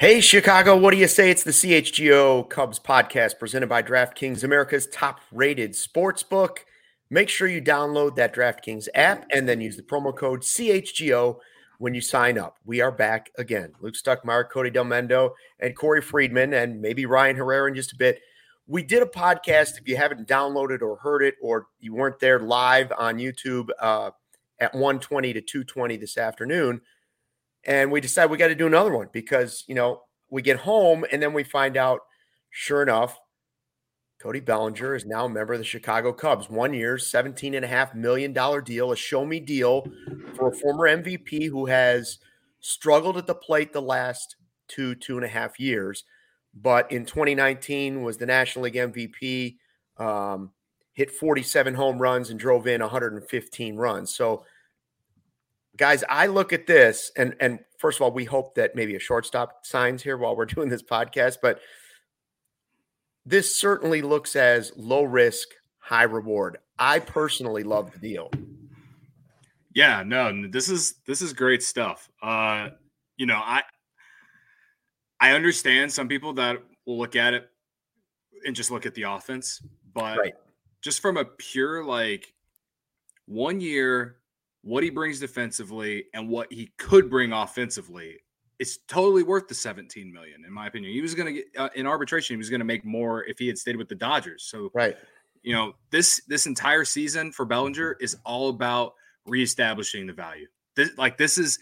Hey, Chicago, what do you say? It's the CHGO Cubs podcast presented by DraftKings, America's top-rated sports book. Make sure you download that DraftKings app and then use the promo code CHGO when you sign up. We are back again. Luke Stuckmeyer, Cody Del Mendo, and Corey Friedman, and maybe Ryan Herrera in just a bit. We did a podcast. If you haven't downloaded or heard it, or you weren't there live on YouTube at 1:20 to 2:20 this afternoon, and we decided we got to do another one because, we get home and then we find out, sure enough, Cody Bellinger is now a member of the Chicago Cubs. 1 year, $17.5 million deal, a show-me deal for a former MVP who has struggled at the plate the last 2.5 years. But in 2019 was the National League MVP, hit 47 home runs and drove in 115 runs. So, guys, I look at this, and first of all, we hope that maybe a shortstop signs here while we're doing this podcast, but this certainly looks as low risk, high reward. I personally love the deal. Yeah, no, this is great stuff. I understand some people that will look at it and just look at the offense, but just from a pure 1 year, what he brings defensively and what he could bring offensively, it's totally worth the $17 million, in my opinion. He was going to get in arbitration. He was going to make more if he had stayed with the Dodgers. So, this entire season for Bellinger is all about reestablishing the value. This is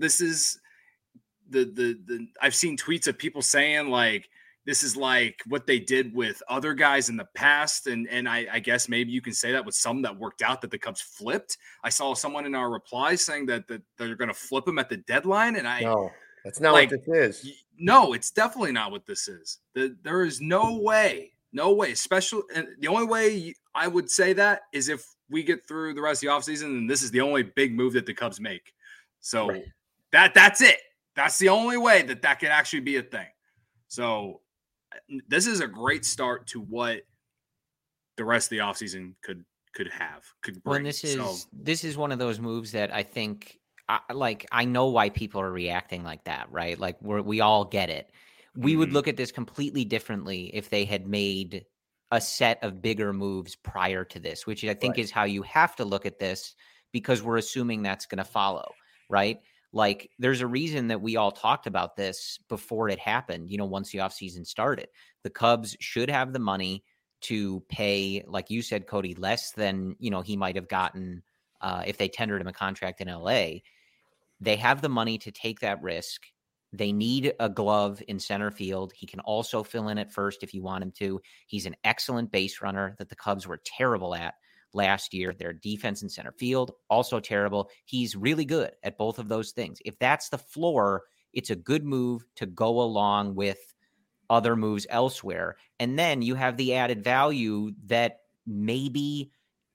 the I've seen tweets of people saying this is like what they did with other guys in the past. And I guess maybe you can say that with some that worked out that the Cubs flipped. I saw someone in our replies saying that they're going to flip him at the deadline. And no, that's not what this is. No, it's definitely not what this is. There is no way, especially. And the only way I would say that is if we get through the rest of the offseason and this is the only big move that the Cubs make. So that's it. That's the only way that could actually be a thing. So this is a great start to what the rest of the offseason could bring. Well, this is one of those moves that I think I know why people are reacting like that, right? Like we all get it. We would look at this completely differently if they had made a set of bigger moves prior to this, which I think is how you have to look at this because we're assuming that's going to follow, right? Like there's a reason that we all talked about this before it happened, once the offseason started. The Cubs should have the money to pay, like you said, Cody, less than, he might have gotten if they tendered him a contract in LA. They have the money to take that risk. They need a glove in center field. He can also fill in at first if you want him to. He's an excellent base runner that the Cubs were terrible at last year. Their defense in center field, also terrible. He's really good at both of those things. If that's the floor, it's a good move to go along with other moves elsewhere. And then you have the added value that maybe,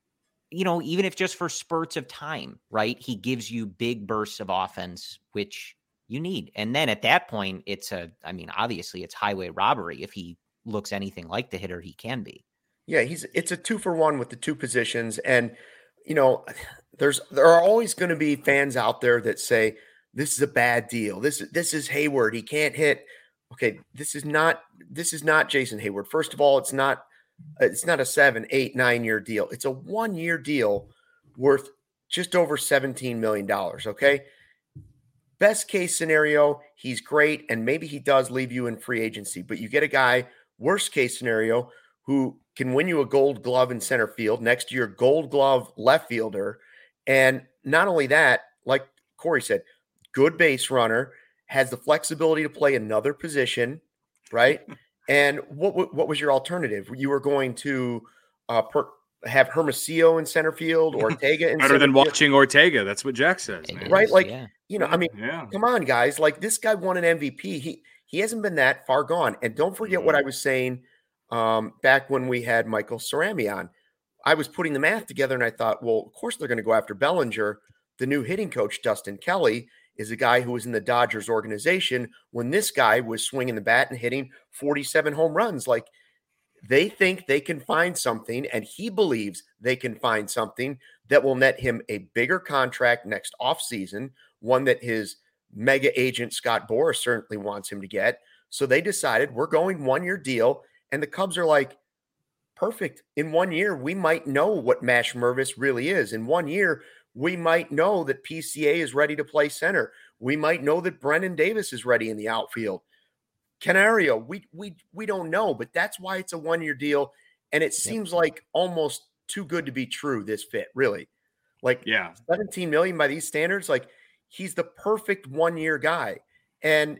even if just for spurts of time, right? He gives you big bursts of offense, which you need. And then at that point, obviously it's highway robbery if he looks anything like the hitter he can be. Yeah, it's a 2-for-1 with the two positions. And, there are always going to be fans out there that say, this is a bad deal. This is Hayward. He can't hit. Okay, this is not Jason Hayward. First of all, it's not a 7, 8, 9 year deal. It's a 1 year deal worth just over $17 million. Okay. Best case scenario, he's great. And maybe he does leave you in free agency, but you get a guy, worst case scenario, who can win you a gold glove in center field next to your gold glove left fielder. And not only that, like Corey said, good base runner, has the flexibility to play another position, right? And what was your alternative? You were going to have Hermosillo in center field, Ortega in better than field. Watching Ortega. That's what Jack says, man. Right? Come on, guys. Like this guy won an MVP. He hasn't been that far gone. And don't forget what I was saying back when we had Michael Cerami on. I was putting the math together and I thought, well, of course they're going to go after Bellinger. The new hitting coach, Dustin Kelly, is a guy who was in the Dodgers organization when this guy was swinging the bat and hitting 47 home runs. Like they think they can find something, and he believes they can find something that will net him a bigger contract next offseason, one that his mega agent Scott Boras certainly wants him to get. So they decided we're going 1-year deal. And the Cubs are like, perfect. In 1 year, we might know what Mash Mervis really is. In 1 year, we might know that PCA is ready to play center. We might know that Brennan Davis is ready in the outfield. Canario, we don't know, but that's why it's a 1-year deal. And it seems like almost too good to be true, this fit, really. Like, yeah, 17 million by these standards, like, he's the perfect 1-year guy. And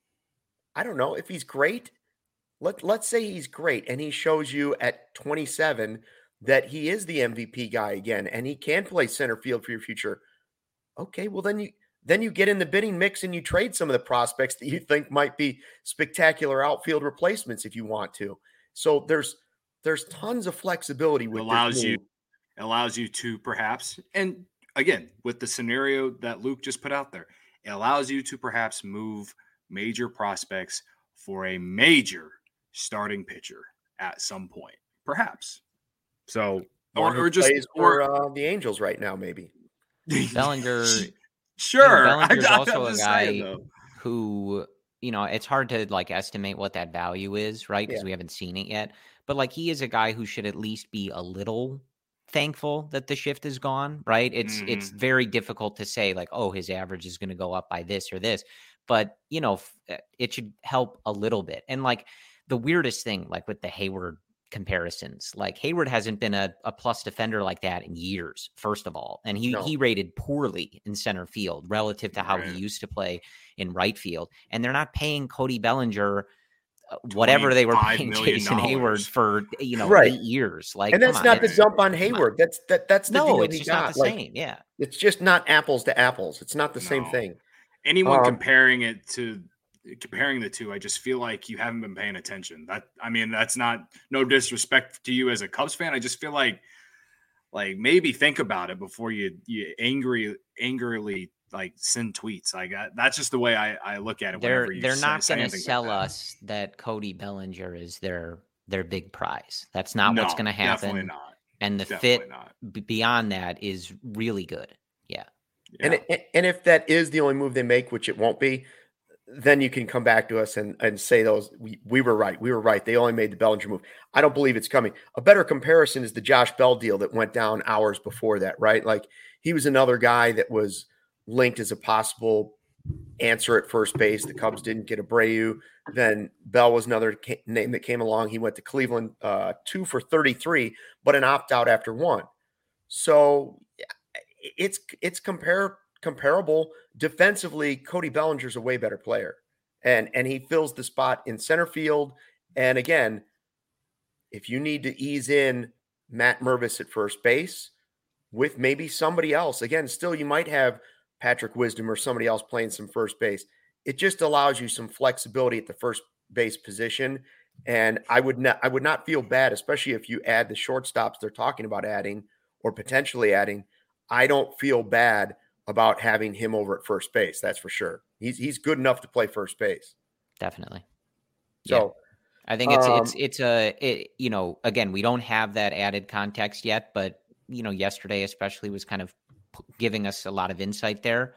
I don't know if he's great. Let's say he's great and he shows you at 27 that he is the MVP guy again and he can play center field for your future. Okay, well then you get in the bidding mix and you trade some of the prospects that you think might be spectacular outfield replacements if you want to. So there's tons of flexibility with allows you to perhaps, and again, with the scenario that Luke just put out there, it allows you to perhaps move major prospects for a major starting pitcher at some point, perhaps. So, or just for the Angels right now, maybe. Bellinger. Sure. Bellinger's also a guy who, it's hard to like estimate what that value is, right? Because we haven't seen it yet. But like, he is a guy who should at least be a little thankful that the shift is gone, right? It's very difficult to say like, oh, his average is going to go up by this or this, but it should help a little bit. And like the weirdest thing, like with the Hayward comparisons, like Hayward hasn't been a plus defender like that in years, first of all. And he rated poorly in center field relative to how he used to play in right field. And they're not paying Cody Bellinger whatever they were paying Jason Hayward for 8 years. Like, and that's not the dump on Hayward. That's the deal it's just not the same. Yeah. It's just not apples to apples. It's not the same thing. Anyone comparing the two, I just feel like you haven't been paying attention. That's not no disrespect to you as a Cubs fan. I just feel like maybe think about it before you angrily like send tweets. Like that's just the way I look at it. They're not going to sell us that Cody Bellinger is their big prize. That's not what's going to happen. Definitely not. And the fit beyond that is really good. Yeah. And if that is the only move they make, which it won't be, then you can come back to us and say we were right. We were right. They only made the Bellinger move. I don't believe it's coming. A better comparison is the Josh Bell deal that went down hours before that, right? Like he was another guy that was linked as a possible answer at first base. The Cubs didn't get Abreu. Then Bell was another name that came along. He went to Cleveland 2 for 33, but an opt-out after 1. So it's comparable. Defensively, Cody Bellinger's a way better player. And he fills the spot in center field. And again, if you need to ease in Matt Mervis at first base with maybe somebody else, again, still you might have Patrick Wisdom or somebody else playing some first base. It just allows you some flexibility at the first base position. And I would not feel bad, especially if you add the shortstops they're talking about adding or potentially adding. I don't feel bad about having him over at first base. That's for sure. He's good enough to play first base. Definitely. So I think again, we don't have that added context yet, but yesterday especially was kind of giving us a lot of insight there.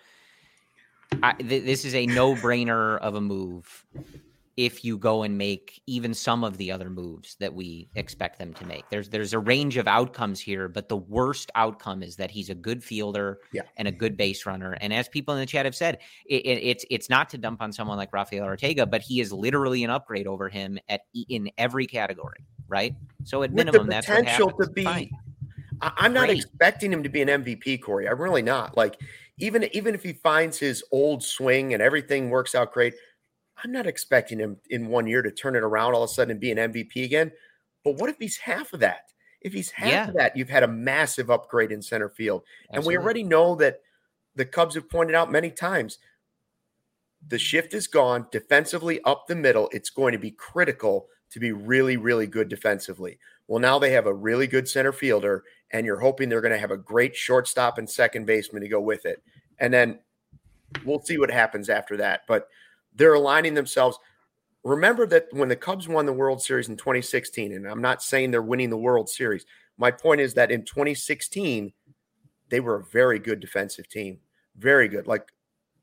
This is a no-brainer of a move if you go and make even some of the other moves that we expect them to make. There's a range of outcomes here, but the worst outcome is that he's a good fielder and a good base runner. And as people in the chat have said, it's not to dump on someone like Rafael Ortega, but he is literally an upgrade over him in every category, right? So at minimum, that's what happens. To be. Fine. I'm not expecting him to be an MVP, Corey. I'm really not. Like, even if he finds his old swing and everything works out great, I'm not expecting him in 1 year to turn it around all of a sudden and be an MVP again. But what if he's half of that? If he's half of that, you've had a massive upgrade in center field. Absolutely. And we already know that the Cubs have pointed out many times, the shift is gone defensively up the middle. It's going to be critical to be really, really good defensively. Well, now they have a really good center fielder, and you're hoping they're going to have a great shortstop and second baseman to go with it. And then we'll see what happens after that. But they're aligning themselves. Remember that when the Cubs won the World Series in 2016, and I'm not saying they're winning the World Series. My point is that in 2016, they were a very good defensive team. Very good. Like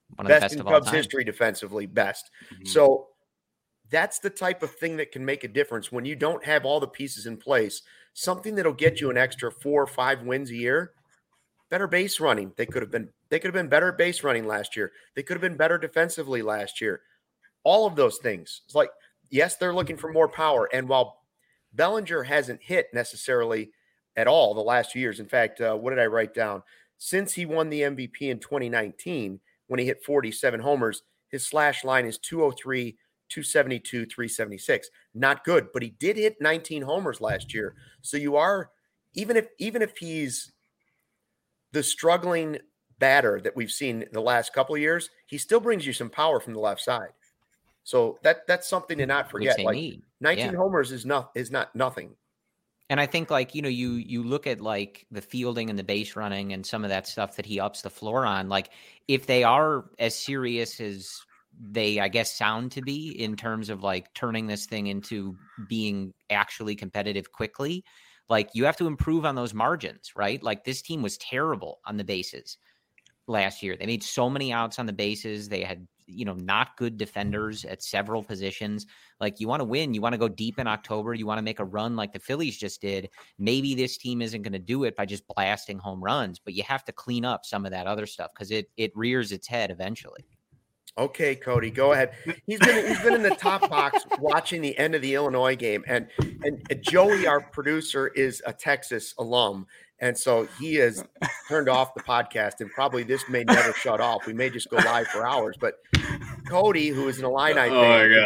One of the best in of all Cubs time. history defensively, best. Mm-hmm. So that's the type of thing that can make a difference when you don't have all the pieces in place. Something that'll get you an extra 4 or 5 wins a year. Better base running. They could have been better at base running last year. They could have been better defensively last year. All of those things. It's like, yes, they're looking for more power. And while Bellinger hasn't hit necessarily at all the last few years, in fact, what did I write down? Since he won the MVP in 2019, when he hit 47 homers, his slash line is 203, 272, 376. Not good, but he did hit 19 homers last year. So you are, even if he's the struggling batter that we've seen the last couple of years, he still brings you some power from the left side. So that's something to not forget. Like need. 19 homers is not nothing. And I think, like, you know, you look at like the fielding and the base running and some of that stuff that he ups the floor on. Like, if they are as serious as they, I guess, sound to be in terms of like turning this thing into being actually competitive quickly, like, you have to improve on those margins, right? Like, this team was terrible on the bases last year. They made so many outs on the bases. They had, you know, not good defenders at several positions. Like, you want to win, you want to go deep in October, you want to make a run like the Phillies just did. Maybe this team isn't going to do it by just blasting home runs, but you have to clean up some of that other stuff because it rears its head eventually. Okay, Cody, go ahead. He's been in the top box watching the end of the Illinois game, and Joey, our producer, is a Texas alum, and so he has turned off the podcast, and probably this may never shut off. We may just go live for hours. But Cody, who is an Illini fan,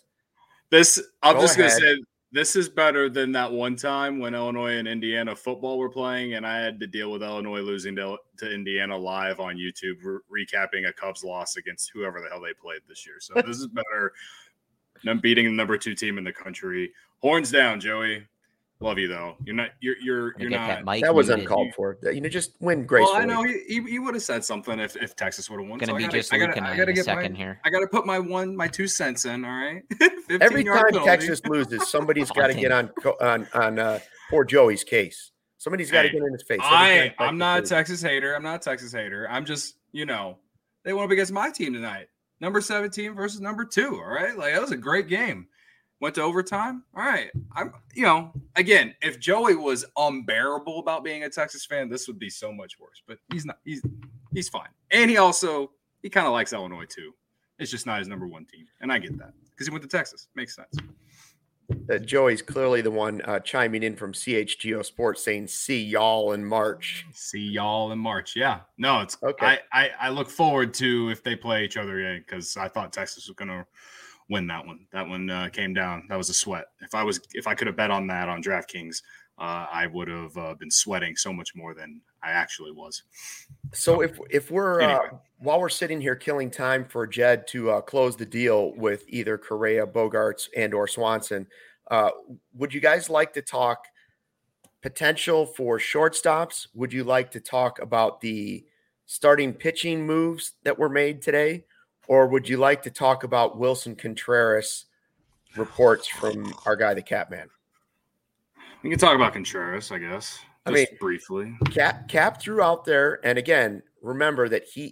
I'm just gonna say, this is better than that one time when Illinois and Indiana football were playing, and I had to deal with Illinois losing to Indiana live on YouTube, recapping a Cubs loss against whoever the hell they played this year. So this is better than beating the number 2 team in the country. Horns down, Joey. Love you though. You're not. That was uncalled for. You know, just win gracefully. Well, I know he would have said something if Texas would have won. Going to be just looking at a second here. I got to put my 2 cents in. All right. Every time Texas loses, somebody's got to get on poor Joey's case. Somebody's got to get in his face. I'm not a Texas hater. I'm just, you know, they went up against my team tonight. Number 17 versus number 2. All right, like, that was a great game. Went to overtime. All right. Again, if Joey was unbearable about being a Texas fan, this would be so much worse. But he's not. He's fine. And he kind of likes Illinois too. It's just not his number 1 team. And I get that because he went to Texas. Makes sense. Joey's clearly the one chiming in from CHGO Sports saying, see y'all in March. See y'all in March. Yeah. No, it's okay. I look forward to if they play each other again because I thought Texas was going to win that one. That one came down. That was a sweat. If I could have bet on that on DraftKings, I would have been sweating so much more than I actually was. So if we're anyway. While we're sitting here killing time for Jed to close the deal with either Correa, Bogarts, and or Swanson, would you guys like to talk potential for shortstops? Would you like to talk about the starting pitching moves that were made today? Or would you like to talk about Wilson Contreras reports from our guy, the Capman? We can talk about Contreras, I guess. Briefly. Cap threw out there, and again, remember that he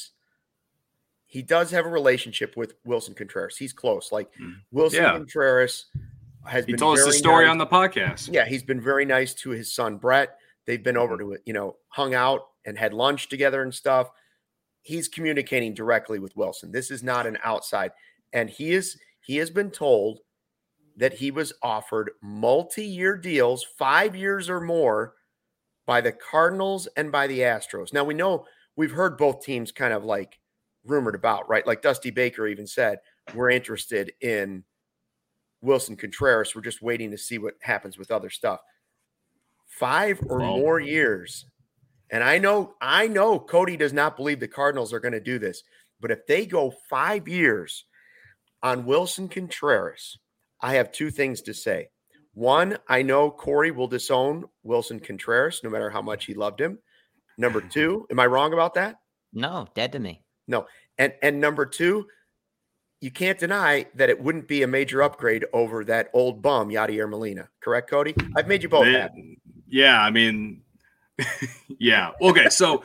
does have a relationship with Wilson Contreras. He's close. Like Wilson Contreras has been. He told us the story on the podcast. Yeah, he's been very nice to his son Brett. They've been over to it, hung out and had lunch together and stuff. He's communicating directly with Wilson. This is not an outside. And he has been told that he was offered multi-year deals, 5 years or more, by the Cardinals and by the Astros. Now, we've heard both teams kind of like rumored about, right? Like Dusty Baker even said, we're interested in Wilson Contreras. We're just waiting to see what happens with other stuff. 5 or more years. And I know Cody does not believe the Cardinals are going to do this, but if they go 5 years on Wilson Contreras, I have 2 things to say. One, I know Corey will disown Wilson Contreras no matter how much he loved him. Number 2, am I wrong about that? No, dead to me. No. And number 2, you can't deny that it wouldn't be a major upgrade over that old bum, Yadier Molina. Correct, Cody? I've made you both happy. Yeah, I mean – yeah. Okay. So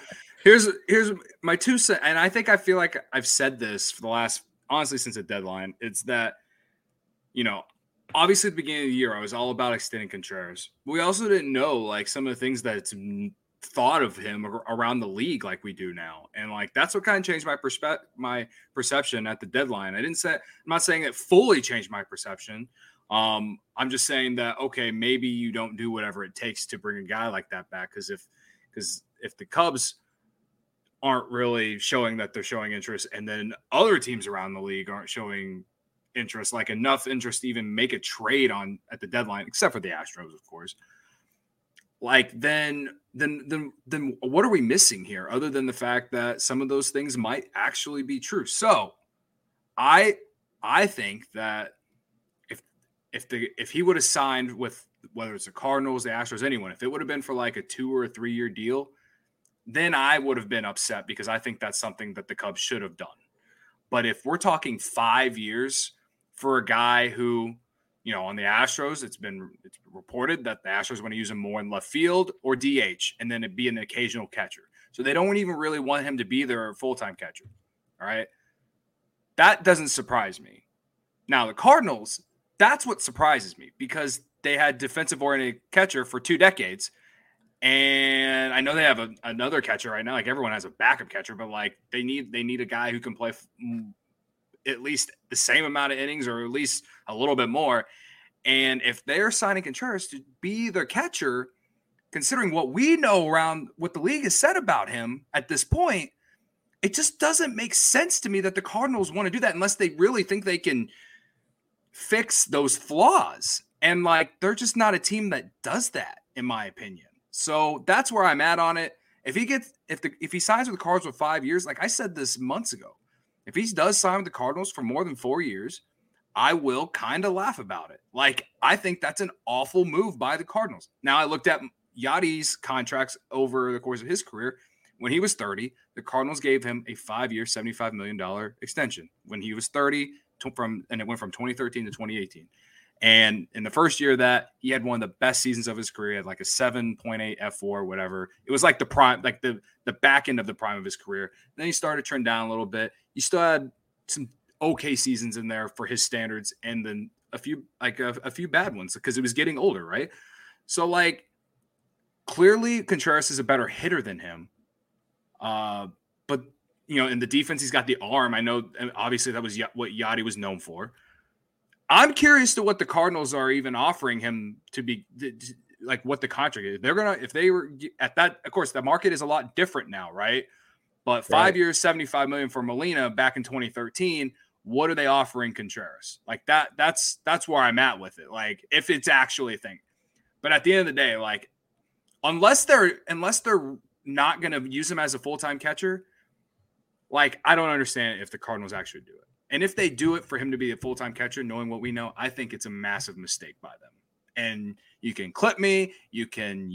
Here's my 2 cents, and I feel like I've said this for the last, honestly, since the deadline. It's that, obviously at the beginning of the year, I was all about extending Contreras. But we also didn't know like some of the things that's thought of him around the league like we do now, and like that's what kind of changed my perception at the deadline. I'm not saying it fully changed my perception. I'm just saying that, okay, maybe you don't do whatever it takes to bring a guy like that back, because if the Cubs aren't really showing that they're showing interest, and then other teams around the league aren't showing interest, like enough interest to even make a trade at the deadline, except for the Astros, of course. Like then what are we missing here, other than the fact that some of those things might actually be true? So I think that if he would have signed with, whether it's the Cardinals, the Astros, anyone, if it would have been for like a 2 or 3 year deal, then I would have been upset, because I think that's something that the Cubs should have done. But if we're talking 5 years for a guy who, on the Astros, it's reported that the Astros want to use him more in left field or DH, and then it'd be an occasional catcher. So they don't even really want him to be their full-time catcher. All right. That doesn't surprise me. Now, the Cardinals, that's what surprises me, because they had defensive-oriented catcher for 2 decades. And I know they have another catcher right now. Like, everyone has a backup catcher, but like they need a guy who can play at least the same amount of innings, or at least a little bit more. And if they're signing Contreras to be their catcher, considering what we know around what the league has said about him at this point, it just doesn't make sense to me that the Cardinals want to do that unless they really think they can fix those flaws. And like, they're just not a team that does that, in my opinion. So that's where I'm at on it. If he signs with the Cardinals for 5 years, like I said this months ago, if he does sign with the Cardinals for more than 4 years, I will kind of laugh about it. Like, I think that's an awful move by the Cardinals. Now, I looked at Yadi's contracts over the course of his career. When he was 30, the Cardinals gave him a 5-year, $75 million extension when he was 30, and it went from 2013 to 2018. And in the first year of that, he had one of the best seasons of his career. He had like a 7.8 F4, whatever. It was like the prime, like the back end of the prime of his career. Then he started to trend down a little bit. He still had some okay seasons in there for his standards, and then a few bad ones, because it was getting older, right? So like, clearly Contreras is a better hitter than him. But in the defense, he's got the arm. I know, obviously, that was what Yadi was known for. I'm curious to what the Cardinals are even offering him to be, like, what the contract is. If they were at that, of course, the market is a lot different now, right? But 5 years, $75 million for Molina back in 2013. What are they offering Contreras? Like that's where I'm at with it. Like, if it's actually a thing. But at the end of the day, like, unless they're not going to use him as a full-time catcher, like, I don't understand if the Cardinals actually do it. And if they do it for him to be a full-time catcher, knowing what we know, I think it's a massive mistake by them. And you can clip me, you can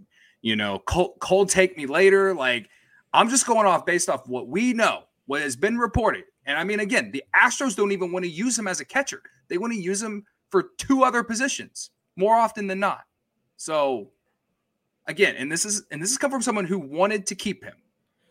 cold take me later. Like, I'm just going off based off what we know, what has been reported. And I mean, again, the Astros don't even want to use him as a catcher. They want to use him for 2 other positions more often than not. So again, and this is come from someone who wanted to keep him.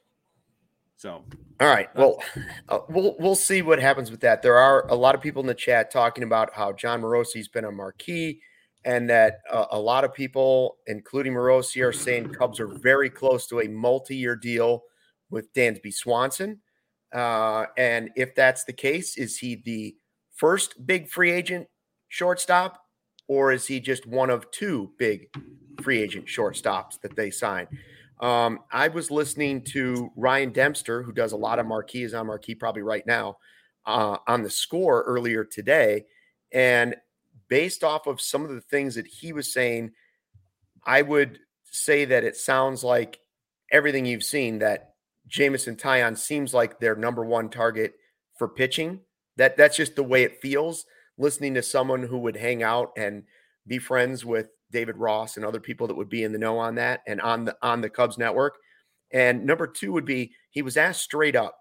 So, all right. Well, we'll see what happens with that. There are a lot of people in the chat talking about how Jon Morosi's been a marquee, and that a lot of people, including Morosi, are saying Cubs are very close to a multi-year deal with Dansby Swanson. And if that's the case, is he the first big free agent shortstop, or is he just one of 2 big free agent shortstops that they sign? I was listening to Ryan Dempster, who does a lot of Marquee, is on Marquee probably right now, on The Score earlier today. And based off of some of the things that he was saying, I would say that it sounds like everything you've seen, that Jameson Taillon seems like their number 1 target for pitching. That's just the way it feels, listening to someone who would hang out and be friends with David Ross and other people that would be in the know on that and on the Cubs network. And number 2 would be, he was asked straight up,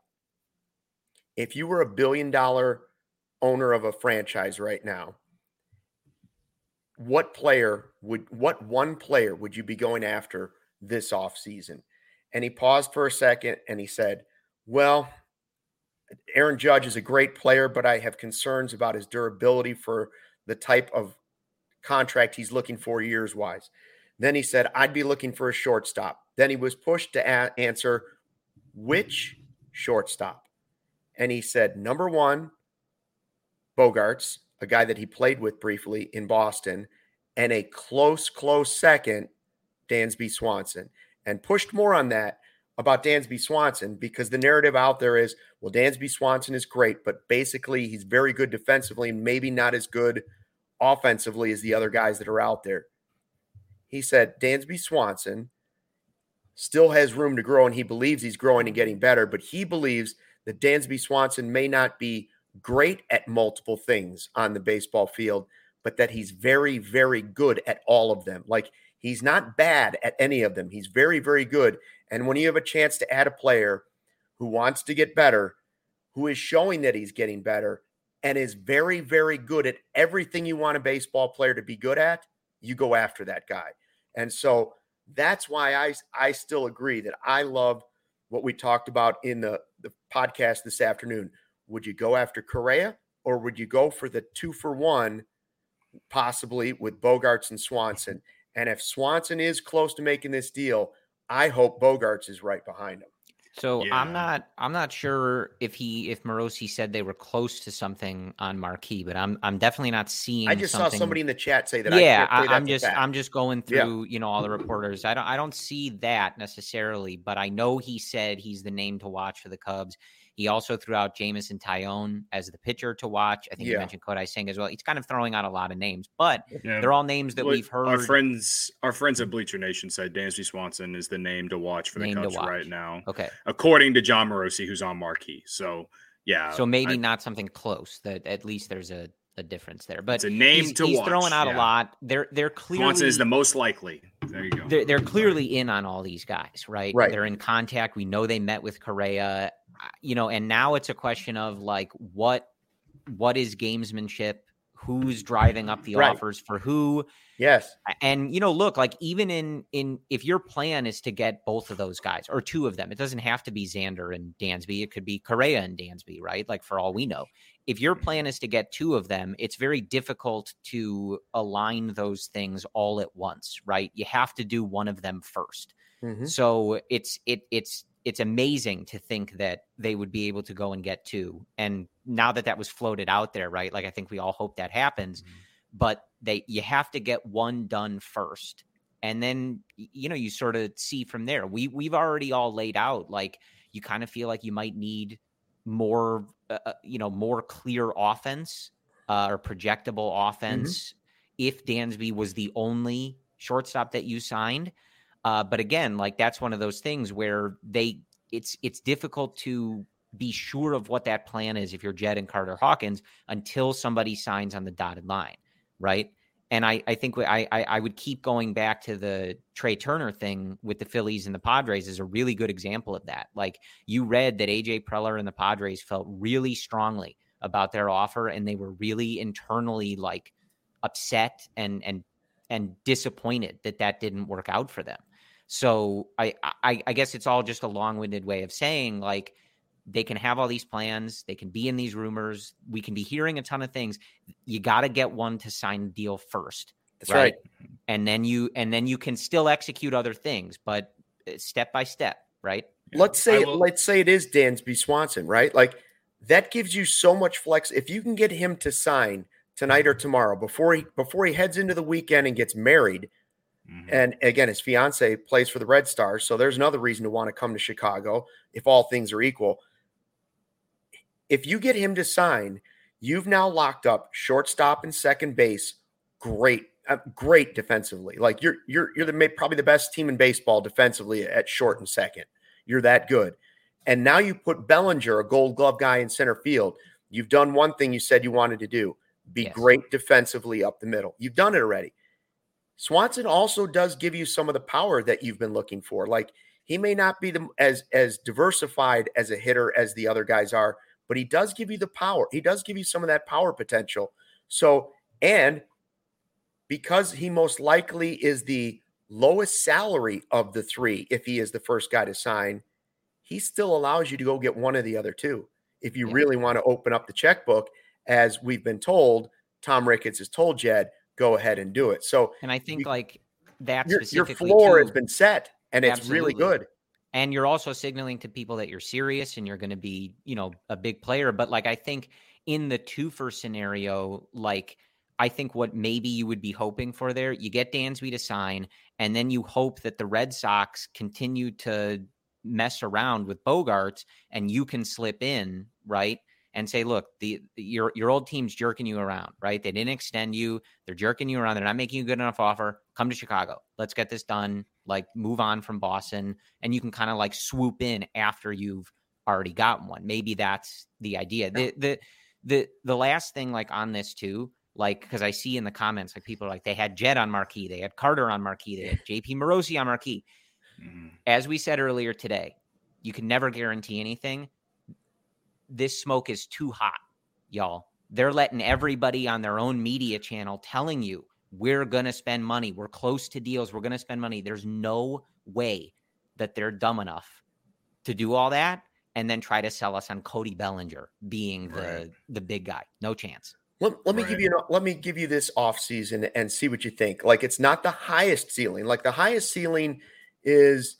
if you were $1 billion owner of a franchise right now, what one player would you be going after this offseason? And he paused for a second and he said, well, Aaron Judge is a great player, but I have concerns about his durability for the type of contract he's looking for years-wise. Then he said, I'd be looking for a shortstop. Then he was pushed to answer, which shortstop? And he said, number one, Bogaerts, a guy that he played with briefly in Boston, and a close second, Dansby Swanson. And pushed more on that about Dansby Swanson because the narrative out there is, well, Dansby Swanson is great, but basically he's very good defensively and maybe not as good offensively as the other guys that are out there. He said Dansby Swanson still has room to grow, and he believes he's growing and getting better, but he believes that Dansby Swanson may not be great at multiple things on the baseball field, but that he's very, very good at all of them. Like, he's not bad at any of them. He's very, very good. And when you have a chance to add a player who wants to get better, who is showing that he's getting better, and is very, very good at everything you want a baseball player to be good at, you go after that guy. And so that's why I still agree that I love what we talked about in the podcast this afternoon. Would you go after Correa, or would you go for the 2-for-1, possibly with Bogaerts and Swanson? And if Swanson is close to making this deal, I hope Bogaerts is right behind him. So yeah. I'm not sure if Morosi said they were close to something on Marquee, but I'm definitely not seeing. I just saw somebody in the chat say that. Yeah, I'm just going through all the reporters. I don't see that necessarily, but I know he said he's the name to watch for the Cubs. He also threw out Jameson Taillon as the pitcher to watch. I think you mentioned Kodai Singh as well. He's kind of throwing out a lot of names, but they're all names that we've heard. Our friends at Bleacher Nation said Dansby Swanson is the name to watch for the Cubs right now. Okay. According to John Morosi, who's on Marquee. So, yeah. So maybe not something close. That at least there's a difference there. But it's a name he's watch. Throwing out a lot. They're clearly Swanson is the most likely. There you go. They're clearly in on all these guys, right? They're in contact. We know they met with Correa. And now it's a question of like what is gamesmanship, who's driving up the offers for who. Yes. And look, like even in if your plan is to get both of those guys or two of them, it doesn't have to be Xander and Dansby. It could be Correa and Dansby, right? Like for all we know, if your plan is to get two of them, it's very difficult to align those things all at once, right? You have to do one of them first. Mm-hmm. So it's amazing to think that they would be able to go and get two. And now that was floated out there, right? Like, I think we all hope that happens, but you have to get one done first. And then, you sort of see from there. We've already all laid out, like, you kind of feel like you might need more, more clear offense or projectable offense if Dansby was the only shortstop that you signed. But again, like that's one of those things where it's difficult to be sure of what that plan is if you're Jed and Carter Hawkins until somebody signs on the dotted line, right? And I think I would keep going back to the Trey Turner thing with the Phillies and the Padres is a really good example of that. Like you read that AJ Preller and the Padres felt really strongly about their offer, and they were really internally like upset and disappointed that didn't work out for them. So I guess it's all just a long-winded way of saying like they can have all these plans, they can be in these rumors, we can be hearing a ton of things. You got to get one to sign a deal first. That's right. And then you can still execute other things, but step by step, right? Let's say it is Dansby Swanson, right? Like that gives you so much flex. If you can get him to sign tonight or tomorrow before he heads into the weekend and gets married. And again, his fiance plays for the Red Stars. So there's another reason to want to come to Chicago if all things are equal. If you get him to sign, you've now locked up shortstop and second base. Great defensively. Like you're probably the best team in baseball defensively at short and second. You're that good. And now you put Bellinger, a Gold Glove guy, in center field. You've done one thing you said you wanted to do. Be great defensively up the middle. You've done it already. Swanson also does give you some of the power that you've been looking for. Like he may not be as diversified as a hitter as the other guys are, but he does give you the power. He does give you some of that power potential. So, and because he most likely is the lowest salary of the three, if he is the first guy to sign, he still allows you to go get one of the other two. If you really want to open up the checkbook, as we've been told, Tom Ricketts has told Jed, go ahead and do it. So, and I think like that your floor has been set, and it's really good. And you're also signaling to people that you're serious and you're going to be, a big player. But like, I think in the 2-for scenario, like, I think what maybe you would be hoping for there, you get Dansby to sign, and then you hope that the Red Sox continue to mess around with Bogaerts and you can slip in, right? And say, look, your old team's jerking you around, right? They didn't extend you. They're jerking you around. They're not making you a good enough offer. Come to Chicago. Let's get this done. Like, move on from Boston. And you can kind of like swoop in after you've already gotten one. Maybe that's the idea. The last thing, like, on this too, like, because I see in the comments, like, people are like, they had Jed on marquee. They had Carter on marquee. They had JP Morosi on marquee. Mm-hmm. As we said earlier today, you can never guarantee anything. This smoke is too hot, y'all. They're letting everybody on their own media channel telling you, we're going to spend money. We're close to deals. We're going to spend money. There's no way that they're dumb to do all that and then try to sell us on Cody Bellinger being the big guy. No chance. Let me give you this offseason and see what you think. Like, it's not the highest ceiling. Like, the highest ceiling is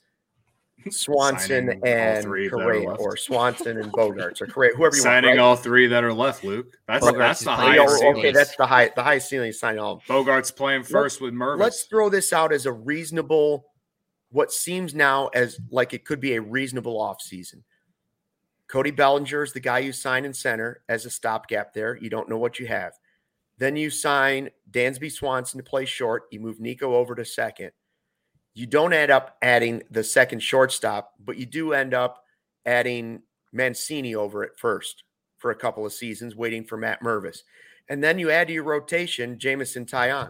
Swanson and Correa, or Swanson and Bogaerts, or Correa, whoever you want. Signing all three that are left, Luke. That's the highest. Okay, that's the highest ceiling is signing all. Bogaerts playing first with Mervis. Let's throw this out as a reasonable, what seems now as like it could be a reasonable offseason. Cody Bellinger is the guy you sign in center as a stopgap there. You don't know what you have. Then you sign Dansby Swanson to play short. You move Nico over to second. You don't end up adding the second shortstop, but you do end up adding Mancini over at first for a couple of seasons, waiting for Matt Mervis. And then you add to your rotation Jameson Taillon.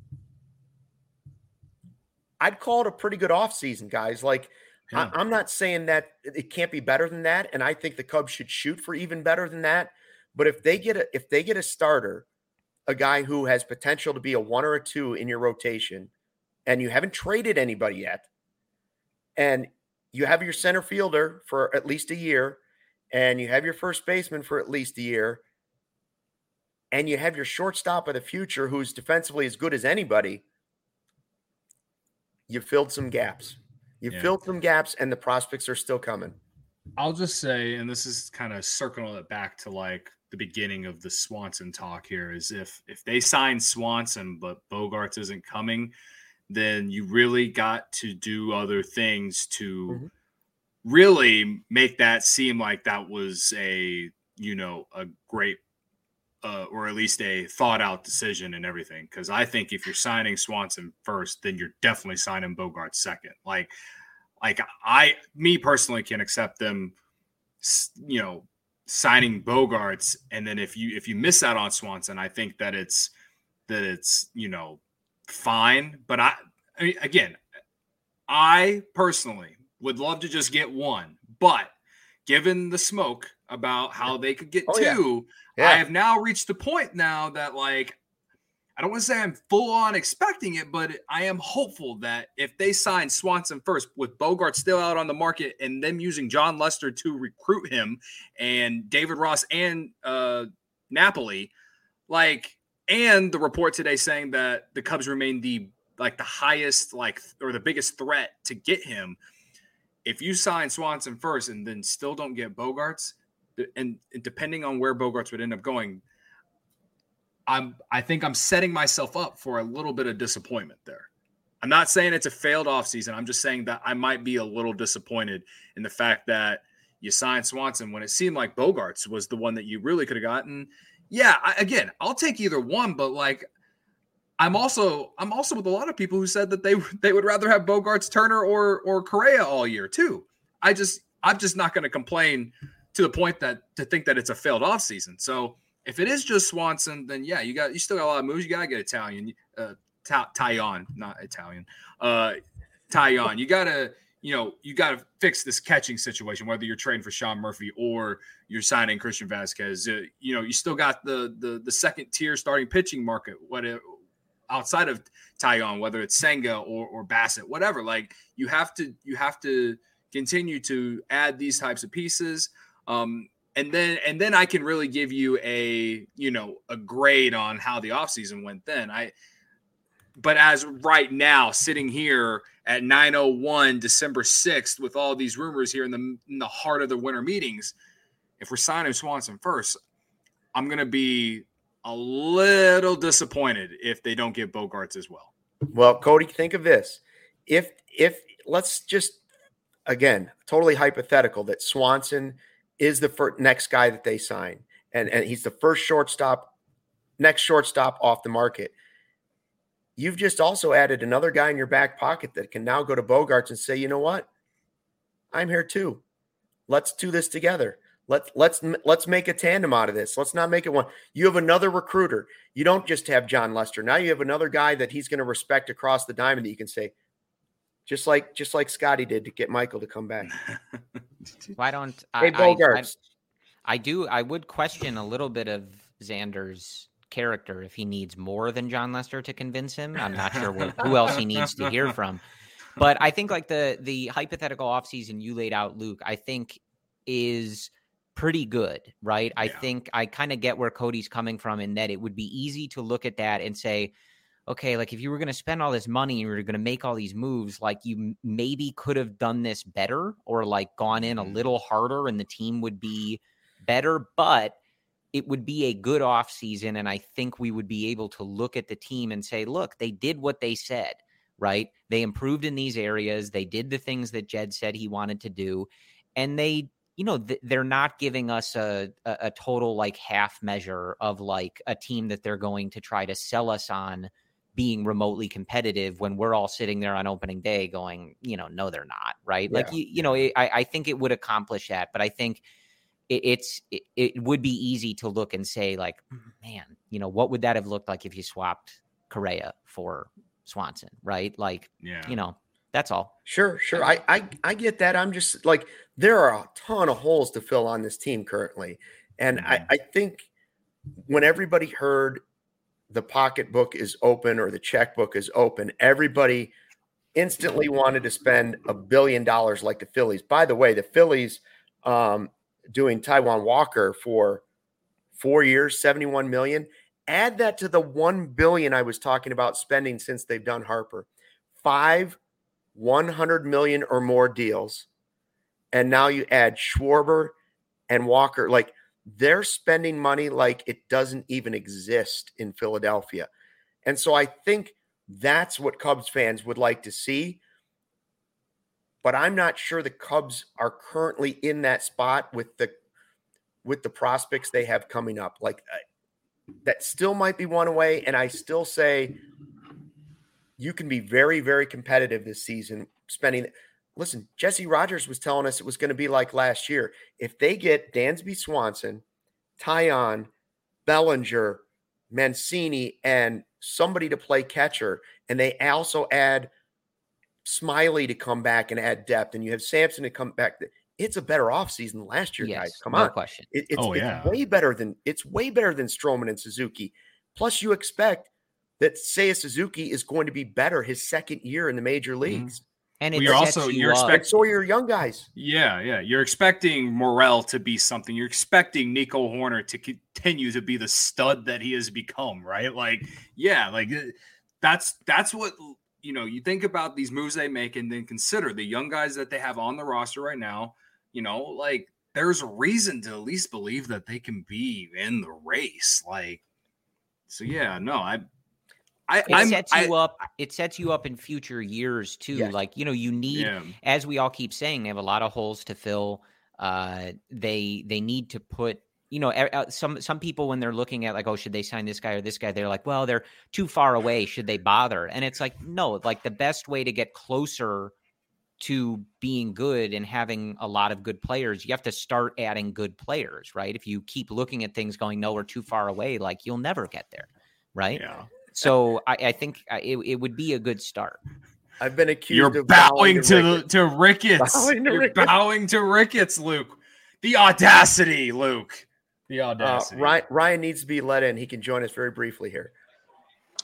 I'd call it a pretty good offseason, guys. Like, yeah. I'm not saying that it can't be better than that, and I think the Cubs should shoot for even better than that. But if they get a starter, a guy who has potential to be a 1 or a 2 in your rotation, and you haven't traded anybody yet, and you have your center fielder for at least a year, and you have your first baseman for at least a year, and you have your shortstop of the future who's defensively as good as anybody, you filled some gaps. Filled some gaps, and the prospects are still coming. I'll just say, and this is kind of circling it back to like the beginning of the Swanson talk here, is if they sign Swanson but Bogaerts isn't coming, then you really got to do other things to really make that seem like that was a great or at least a thought out decision and everything. Because I think if you're signing Swanson first, then you're definitely signing Bogaerts second. Like me personally can accept them, signing Bogaerts, and then if you miss out on Swanson, I think that it's fine. But I personally would love to just get one, but given the smoke about how they could get two, I have now reached the point now that, like, I don't want to say I'm full on expecting it, but I am hopeful that if they sign Swanson first with Bogaerts still out on the market and them using John Lester to recruit him and David Ross and Napoli, and the report today saying that the Cubs remain the highest, or the biggest threat to get him. If you sign Swanson first and then still don't get Bogaerts, and depending on where Bogaerts would end up going, I think I'm setting myself up for a little bit of disappointment there. I'm not saying it's a failed offseason. I'm just saying that I might be a little disappointed in the fact that you signed Swanson when it seemed like Bogaerts was the one that you really could have gotten. Yeah, I'll take either one, but I'm also with a lot of people who said that they would rather have Bogaerts, Turner, or Correa all year too. I'm just not going to complain to the point to think that it's a failed offseason. So if it is just Swanson, then yeah, you still got a lot of moves. You got to get Italian, Taillon, not Italian, Taillon. You got to fix this catching situation, whether you're trading for Sean Murphy or you're signing Christian Vasquez. You still got the second tier starting pitching market. outside of Taillon, whether it's Senga or Bassett, whatever. Like you have to continue to add these types of pieces. And then I can really give you a grade on how the offseason went then. But as right now, sitting here at 9:01, December 6th, with all these rumors here in the heart of the winter meetings, if we're signing Swanson first, I'm going to be a little disappointed if they don't get Bogaerts as well. Well, Cody, think of this. If let's just, again, totally hypothetical that Swanson is the next guy that they sign, and he's the first next shortstop off the market. You've just also added another guy in your back pocket that can now go to Bogaerts and say, you know what? I'm here too. Let's do this together. Let's make a tandem out of this. Let's not make it one. You have another recruiter. You don't just have John Lester. Now you have another guy that he's going to respect across the diamond that you can say, just like Scotty did to get Michael to come back. Why don't Bogaerts? I would question a little bit of Xander's character if he needs more than John Lester to convince him. I'm not sure who else he needs to hear from. But I think like the hypothetical offseason you laid out, Luke, I think is pretty good, right? Yeah. I think I kind of get where Cody's coming from in that it would be easy to look at that and say, okay, like if you were going to spend all this money and you were going to make all these moves, like you maybe could have done this better or like gone in a little harder and the team would be better, but it would be a good off season. And I think we would be able to look at the team and say, look, they did what they said, right? They improved in these areas. They did the things that Jed said he wanted to do. And they, they're not giving us a total like half measure of like a team that they're going to try to sell us on being remotely competitive when we're all sitting there on opening day going, no, they're not, right? Yeah. Like, I think it would accomplish that, but I think it would be easy to look and say like, man, what would that have looked like if you swapped Correa for Swanson, right? Like, that's all. Sure. I get that. I'm just like, there are a ton of holes to fill on this team currently. And I think when everybody heard the pocketbook is open or the checkbook is open, everybody instantly wanted to spend $1 billion like the Phillies. By the way, the Phillies doing Taijuan Walker for 4 years, $71 million. Add that to the $1 billion I was talking about spending since they've done Harper. 5 $100 million or more deals. And now you add Schwarber and Walker. Like, they're spending money like it doesn't even exist in Philadelphia. And so I think that's what Cubs fans would like to see. But I'm not sure the Cubs are currently in that spot with the prospects they have coming up. Like, that still might be one away. And I still say you can be very, very competitive this season spending. Listen, Jesse Rogers was telling us it was going to be like last year. If they get Dansby Swanson, Taillon, Bellinger, Mancini, and somebody to play catcher, and they also add Smiley to come back and add depth, and you have Sampson to come back, it's a better offseason than last year, guys. Come on. Question. It's way better than Stroman and Suzuki. Plus, you expect that Seiya Suzuki is going to be better his second year in the major leagues. Mm-hmm. And you're expecting so your young guys. Yeah. You're expecting Morel to be something. You're expecting Nico Horner to continue to be the stud that he has become, right? Like, yeah, like that's what, you think about these moves they make and then consider the young guys that they have on the roster right now, like there's a reason to at least believe that they can be in the race. Like, so yeah, no, it sets you up in future years too. Yes. Like, you need, as we all keep saying, they have a lot of holes to fill. They need to put, some people when they're looking at like, oh, should they sign this guy or this guy? They're like, well, they're too far away. Should they bother? And it's like, no, like the best way to get closer to being good and having a lot of good players, you have to start adding good players, right? If you keep looking at things going, no, we're too far away, like you'll never get there. Right. Yeah. So I think it would be a good start. I've been accused You're of bowing to Ricketts. You're bowing to Ricketts, Luke. The audacity, Luke. The audacity. Ryan needs to be let in. He can join us very briefly here.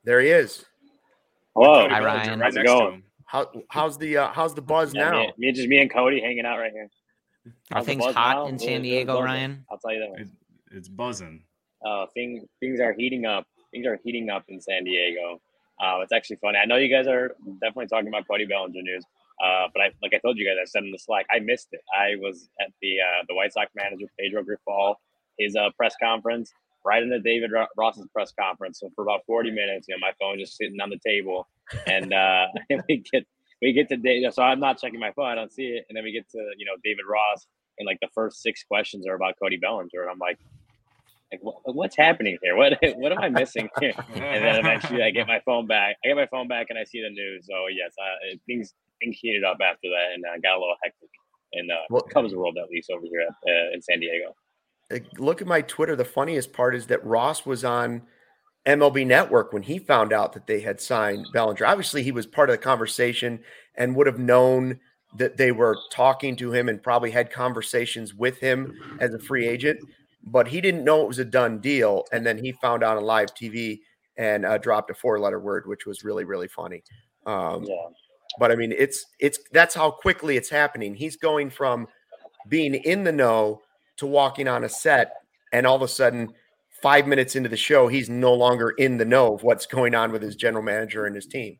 There he is. Hello. Hi, Ryan. Right next to him. How's the buzz now? Me and Cody hanging out right here. Are things hot in San Diego, Ryan? I'll tell you that. It's buzzing. Things are heating up. Things are heating up in San Diego. It's actually funny. I know you guys are definitely talking about Cody Bellinger news. But like I told you guys, I said in the Slack, I missed it. I was at the White Sox manager, Pedro Grifol, his press conference, right into David Ross's press conference. So for about 40 minutes, my phone just sitting on the table, and we get to Dave. So I'm not checking my phone, I don't see it, and then we get to David Ross, and like the first 6 questions are about Cody Bellinger, and I'm like what's happening here? What am I missing here? And then eventually I get my phone back. And I see the news. So yes, things heated up after that, and got a little hectic in Cubs world, at least over here in San Diego. Look at my Twitter. The funniest part is that Ross was on MLB Network when he found out that they had signed Bellinger. Obviously, he was part of the conversation and would have known that they were talking to him and probably had conversations with him as a free agent, but he didn't know it was a done deal. And then he found out on live TV and dropped a 4-letter word, which was really, really funny. But I mean, that's how quickly it's happening. He's going from being in the know to walking on a set, and all of a sudden 5 minutes into the show, he's no longer in the know of what's going on with his general manager and his team.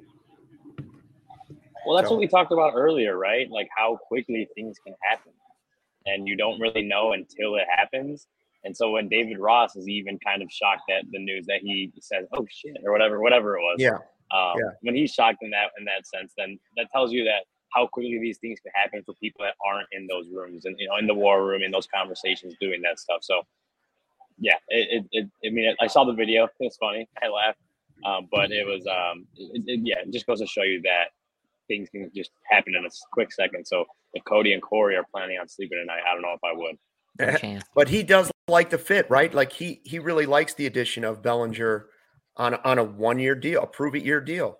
Well, that's what we talked about earlier, right? Like how quickly things can happen, and you don't really know until it happens. And so when David Ross is even kind of shocked at the news that he says, "Oh shit," or whatever it was. When he's shocked in that sense, then that tells you that how quickly these things can happen for people that aren't in those rooms and in the war room, in those conversations, doing that stuff. So yeah, I saw the video. It was funny. I laughed, but it was it just goes to show you that things can just happen in a quick second. So if Cody and Corey are planning on sleeping tonight, I don't know if I would. But he does like the fit, right? Like he really likes the addition of Bellinger on a 1-year deal, a prove-it-year deal.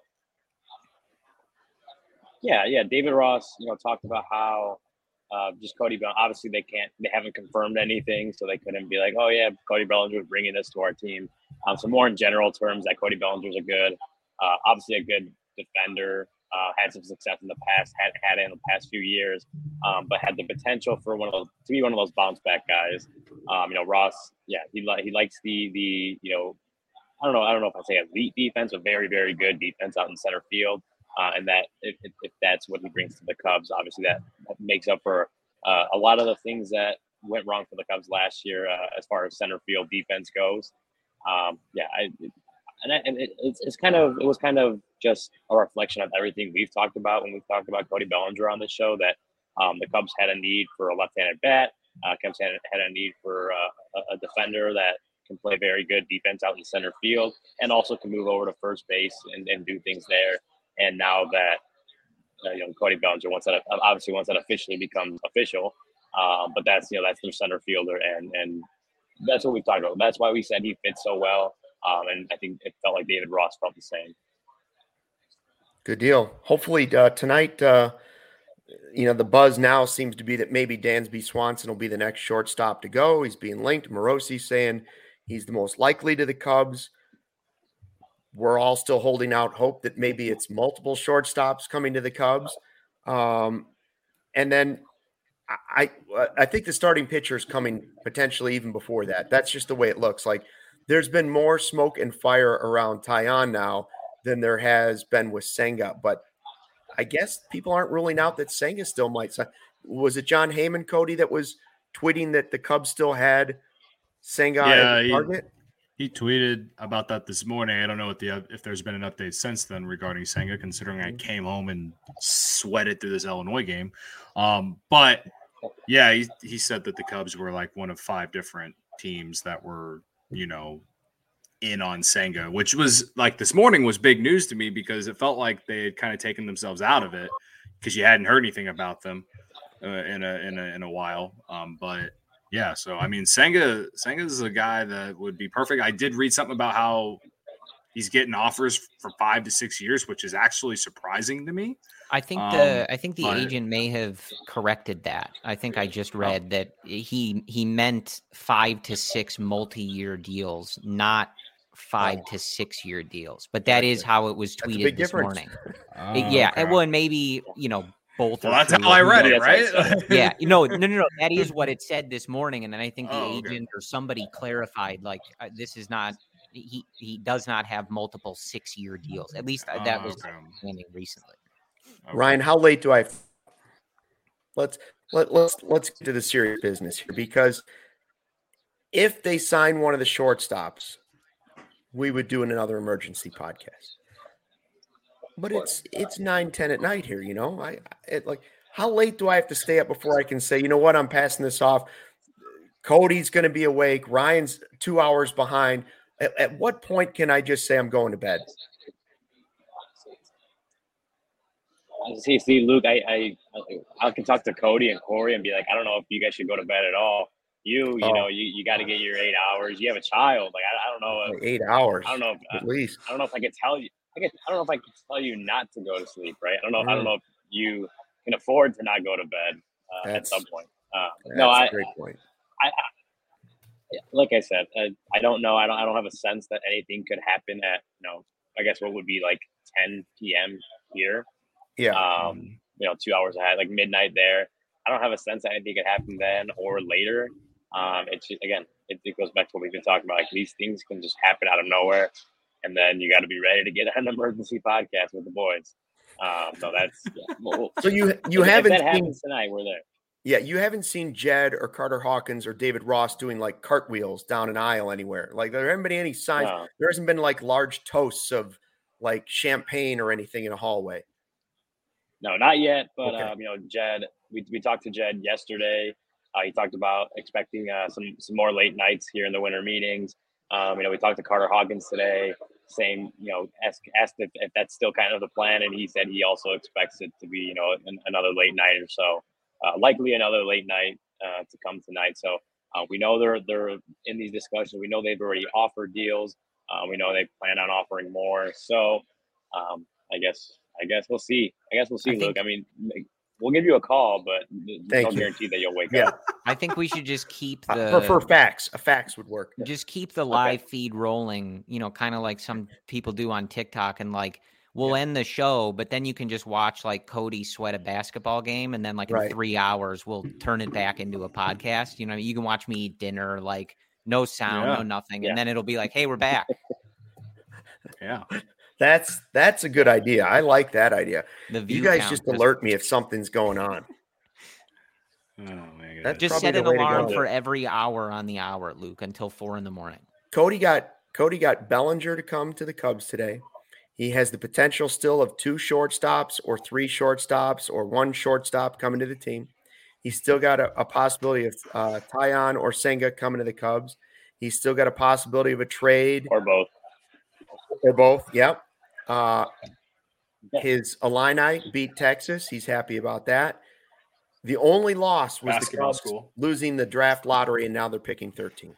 Yeah. David Ross, talked about how just Cody Bellinger. Obviously, they haven't confirmed anything, so they couldn't be like, "Oh yeah, Cody Bellinger is bringing this to our team." So more in general terms, that Cody Bellinger is obviously a good defender. Had some success in the past, had it in the past few years, but had the potential for to be one of those bounce back guys. Ross, he likes the I don't know if I say elite defense, but very, very good defense out in center field. And that if that's what he brings to the Cubs, obviously that makes up for a lot of the things that went wrong for the Cubs last year as far as center field defense goes. It was kind of just a reflection of everything we've talked about when we've talked about Cody Bellinger on the show, that the Cubs had a need for a left-handed bat. Cubs had a need for a defender that can play very good defense out in center field and also can move over to first base and do things there. And now that Cody Bellinger, once that officially becomes official, but that's their center fielder, and that's what we've talked about. That's why we said he fits so well. And I think it felt like David Ross felt the same. Good deal. Hopefully tonight, the buzz now seems to be that maybe Dansby Swanson will be the next shortstop to go. He's being linked. Morosi saying he's the most likely to the Cubs. We're all still holding out hope that maybe it's multiple shortstops coming to the Cubs. And then I think the starting pitcher is coming potentially even before that. That's just the way it looks like. There's been more smoke and fire around Taillon now than there has been with Senga. But I guess people aren't ruling out that Senga still might sign. Was it John Heyman, Cody, that was tweeting that the Cubs still had Senga as a target? He tweeted about that this morning. I don't know if there's been an update since then regarding Senga, considering I came home and sweated through this Illinois game. But yeah, he said that the Cubs were like one of 5 different teams that were, in on Senga, which was like this morning was big news to me because it felt like they had kind of taken themselves out of it because you hadn't heard anything about them in a while. But yeah, so I mean, Senga is a guy that would be perfect. I did read something about how he's getting offers for 5 to 6 years, which is actually surprising to me. I think the agent may have corrected that. I think I just read that he meant 5 to 6 multi-year deals, not 5 to 6 year deals, but that is how it was tweeted this morning. Okay. Well, and maybe, both. Well, that's how I read it, right? Yeah, no. That is what it said this morning, and then I think the agent or somebody clarified, like, this is not. He does not have multiple 6 year deals. At least that was happening recently. Okay. Ryan, how late do I? Let's get to the serious business here, because if they sign one of the shortstops, we would do another emergency podcast. But it's 9-10 at night here, how late do I have to stay up before I can say, you know what, I'm passing this off? Cody's going to be awake. Ryan's 2 hours behind. At what point can I just say I'm going to bed? See, Luke, I can talk to Cody and Corey and be like, I don't know if you guys should go to bed at all. You got to get your 8 hours. You have a child. Like, I don't know. 8 hours. I don't know. At least. I don't know if I could tell you. I don't know if I can tell you not to go to sleep, right? I don't know if you can afford to not go to bed at some point. That's a great point. Like I said, I don't know. I don't have a sense that anything could happen at, I guess what would be like 10 p.m. here. Yeah. 2 hours ahead, like midnight there. I don't have a sense that anything could happen then or later. It's just, again, it goes back to what we've been talking about. Like, these things can just happen out of nowhere, and then you got to be ready to get an emergency podcast with the boys. So that's so you if haven't that seen happens tonight, we're there. Yeah, you haven't seen Jed or Carter Hawkins or David Ross doing like cartwheels down an aisle anywhere. Like, there haven't been any signs. No. There hasn't been like large toasts of like champagne or anything in a hallway. No, not yet. But Jed, we talked to Jed yesterday. He talked about expecting some more late nights here in the winter meetings. We talked to Carter Hawkins today. Same, asked if that's still kind of the plan, and he said he also expects it to be, another late night or so. Likely another late night to come tonight. So we know they're in these discussions. We know they've already offered deals. We know they plan on offering more. So I guess we'll see. Luke. I mean, we'll give you a call, but there's no guarantee that you'll wake up. I think we should just keep the for facts. A fax would work. Just keep the live feed rolling. Kind of like some people do on TikTok, and like, we'll end the show, but then you can just watch like Cody sweat a basketball game, and then like in 3 hours we'll turn it back into a podcast. You can watch me eat dinner, like no sound, no nothing, and then it'll be like, hey, we're back. Yeah. That's a good idea. I like that idea. You guys just alert me if something's going on. Oh my God. Just set an alarm for every hour on the hour, Luke, until 4 a.m. Cody got Bellinger to come to the Cubs today. He has the potential still of 2 shortstops or 3 shortstops or 1 shortstop coming to the team. He's still got a possibility of Taillon or Senga coming to the Cubs. He's still got a possibility of a trade. Or both, yep. His Illini beat Texas. He's happy about that. The only loss was the Cubs losing the draft lottery, and now they're picking 13.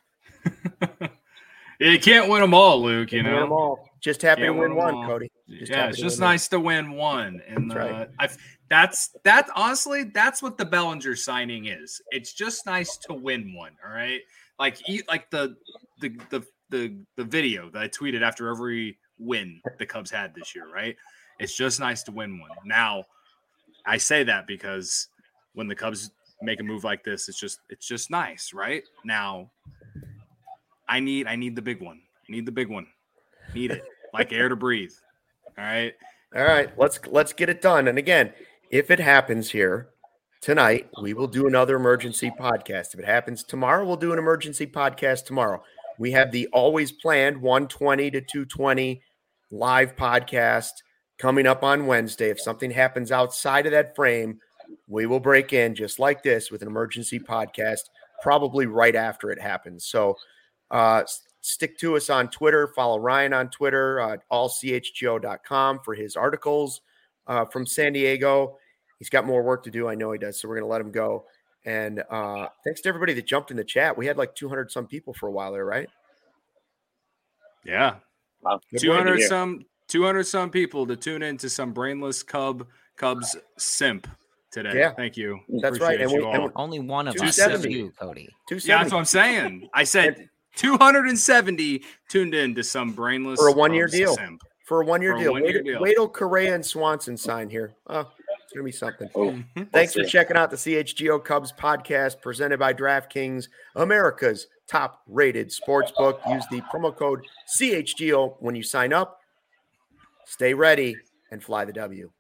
You can't win them all, Luke. Win them all. Just happy to win one, Cody. It's just nice to win one, and that's honestly that's what the Bellinger signing is. It's just nice to win one. All right, like the video that I tweeted after every win the Cubs had this year. Right, it's just nice to win one. Now, I say that because when the Cubs make a move like this, it's just nice, right? Now, I need the big one. Need it like air to breathe. All right. Let's get it done. And again, if it happens here tonight, we will do another emergency podcast. If it happens tomorrow, we'll do an emergency podcast tomorrow. We have the always planned 120 to 220 live podcast coming up on Wednesday. If something happens outside of that frame, we will break in just like this with an emergency podcast, probably right after it happens. So stick to us on Twitter. Follow Ryan on Twitter, allchgo.com for his articles from San Diego. He's got more work to do. I know he does. So we're going to let him go. And thanks to everybody that jumped in the chat. We had like 200 some people for a while there, right? Yeah. Wow. 200 some people to tune into some brainless Cubs simp today. Yeah. Thank you. That's right. And only one of us is you, Cody. Yeah, that's what I'm saying. I said 270 tuned in to some brainless for a 1-year deal. Simp. For a 1-year deal. Wait till Correa and Swanson sign here. Oh, it's going to be something. Thanks for checking out the CHGO Cubs podcast presented by DraftKings, America's top-rated sportsbook. Use the promo code CHGO when you sign up. Stay ready and fly the W.